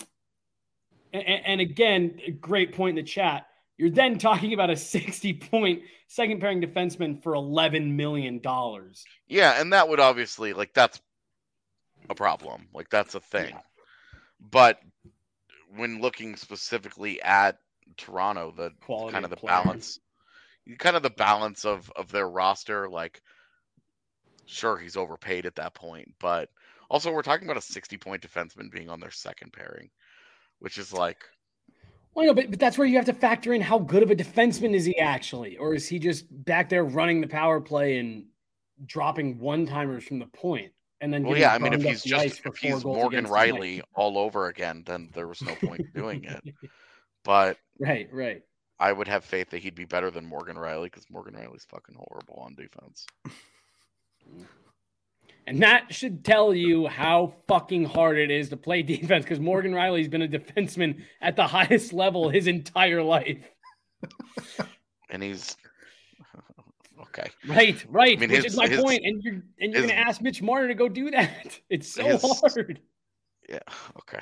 again, a great point in the chat. You're then talking about a 60-point second pairing defenseman for $11 million. Yeah, and that would obviously, like, that's a problem. Like, that's a thing. Yeah. But when looking specifically at Toronto, the quality kind of the player. balance of their roster, like, sure, he's overpaid at that point, but also we're talking about a 60-point defenseman being on their second pairing, which is like, well, no, but that's where you have to factor in how good of a defenseman is he actually, or is he just back there running the power play and dropping one-timers from the point? And then if he's Morgan Riley all over again, then there was no point in doing it. But right. I would have faith that he'd be better than Morgan Riley because Morgan Riley's fucking horrible on defense. And that should tell you how fucking hard it is to play defense because Morgan Riley's been a defenseman at the highest level his entire life. And he's okay. Right. I mean, which is my point. And you're going to ask Mitch Marner to go do that. It's so hard. Yeah. Okay.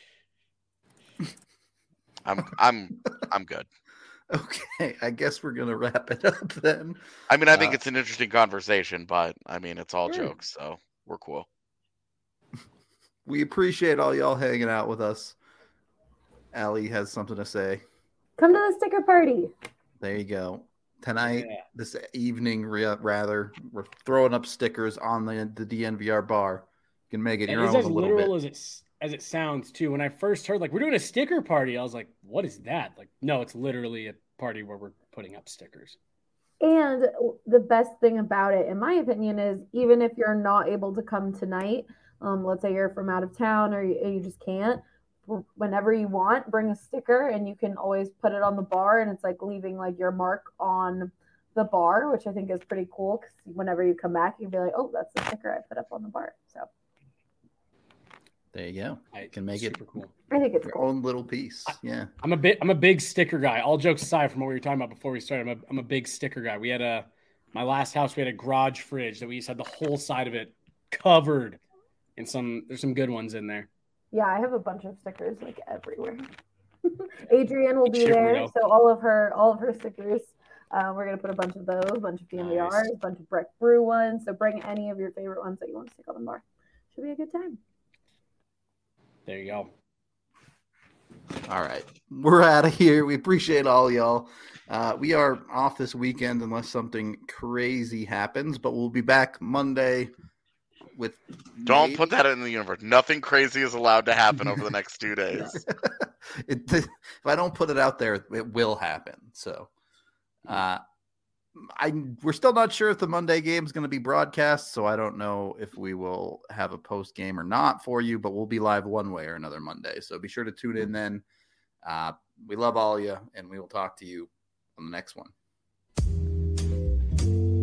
I'm good. Okay, I guess we're gonna wrap it up then. I mean, I think it's an interesting conversation, but I mean, it's all jokes, so we're cool. We appreciate all y'all hanging out with us. Allie has something to say. Come to the sticker party. There you go. Tonight, this evening, rather, we're throwing up stickers on the DNVR bar. You can make it your own a little bit. Literal as it sounds too. When I first heard, like, we're doing a sticker party, I was like, what is that? Like, no, it's literally a party where we're putting up stickers. And the best thing about it, in my opinion, is even if you're not able to come tonight, let's say you're from out of town or you just can't, whenever you want, bring a sticker and you can always put it on the bar, and it's like leaving like your mark on the bar, which I think is pretty cool because whenever you come back, you can be like, oh, that's the sticker I put up on the bar. So there you go. I can make it cool. I think it's your cool. own little piece. Yeah. I'm a big sticker guy. All jokes aside from what we were talking about before we started, I'm a big sticker guy. We had my last house, we had a garage fridge that we used to have the whole side of it covered in there's some good ones in there. Yeah, I have a bunch of stickers like everywhere. Adrienne will be there, so all of her stickers. We're gonna put a bunch of those, a bunch of DNVRs, nice. A bunch of Breck Brew ones. So bring any of your favorite ones that you want to stick on the bar. Should be a good time. There you go. All right. We're out of here. We appreciate all y'all. We are off this weekend unless something crazy happens, but we'll be back Monday with... Don't put that in the universe. Nothing crazy is allowed to happen over the next 2 days. If I don't put it out there, it will happen. So we're still not sure if the Monday game is going to be broadcast, so I don't know if we will have a post game or not for you, but we'll be live one way or another Monday. So be sure to tune in then. We love all of you, and we will talk to you on the next one.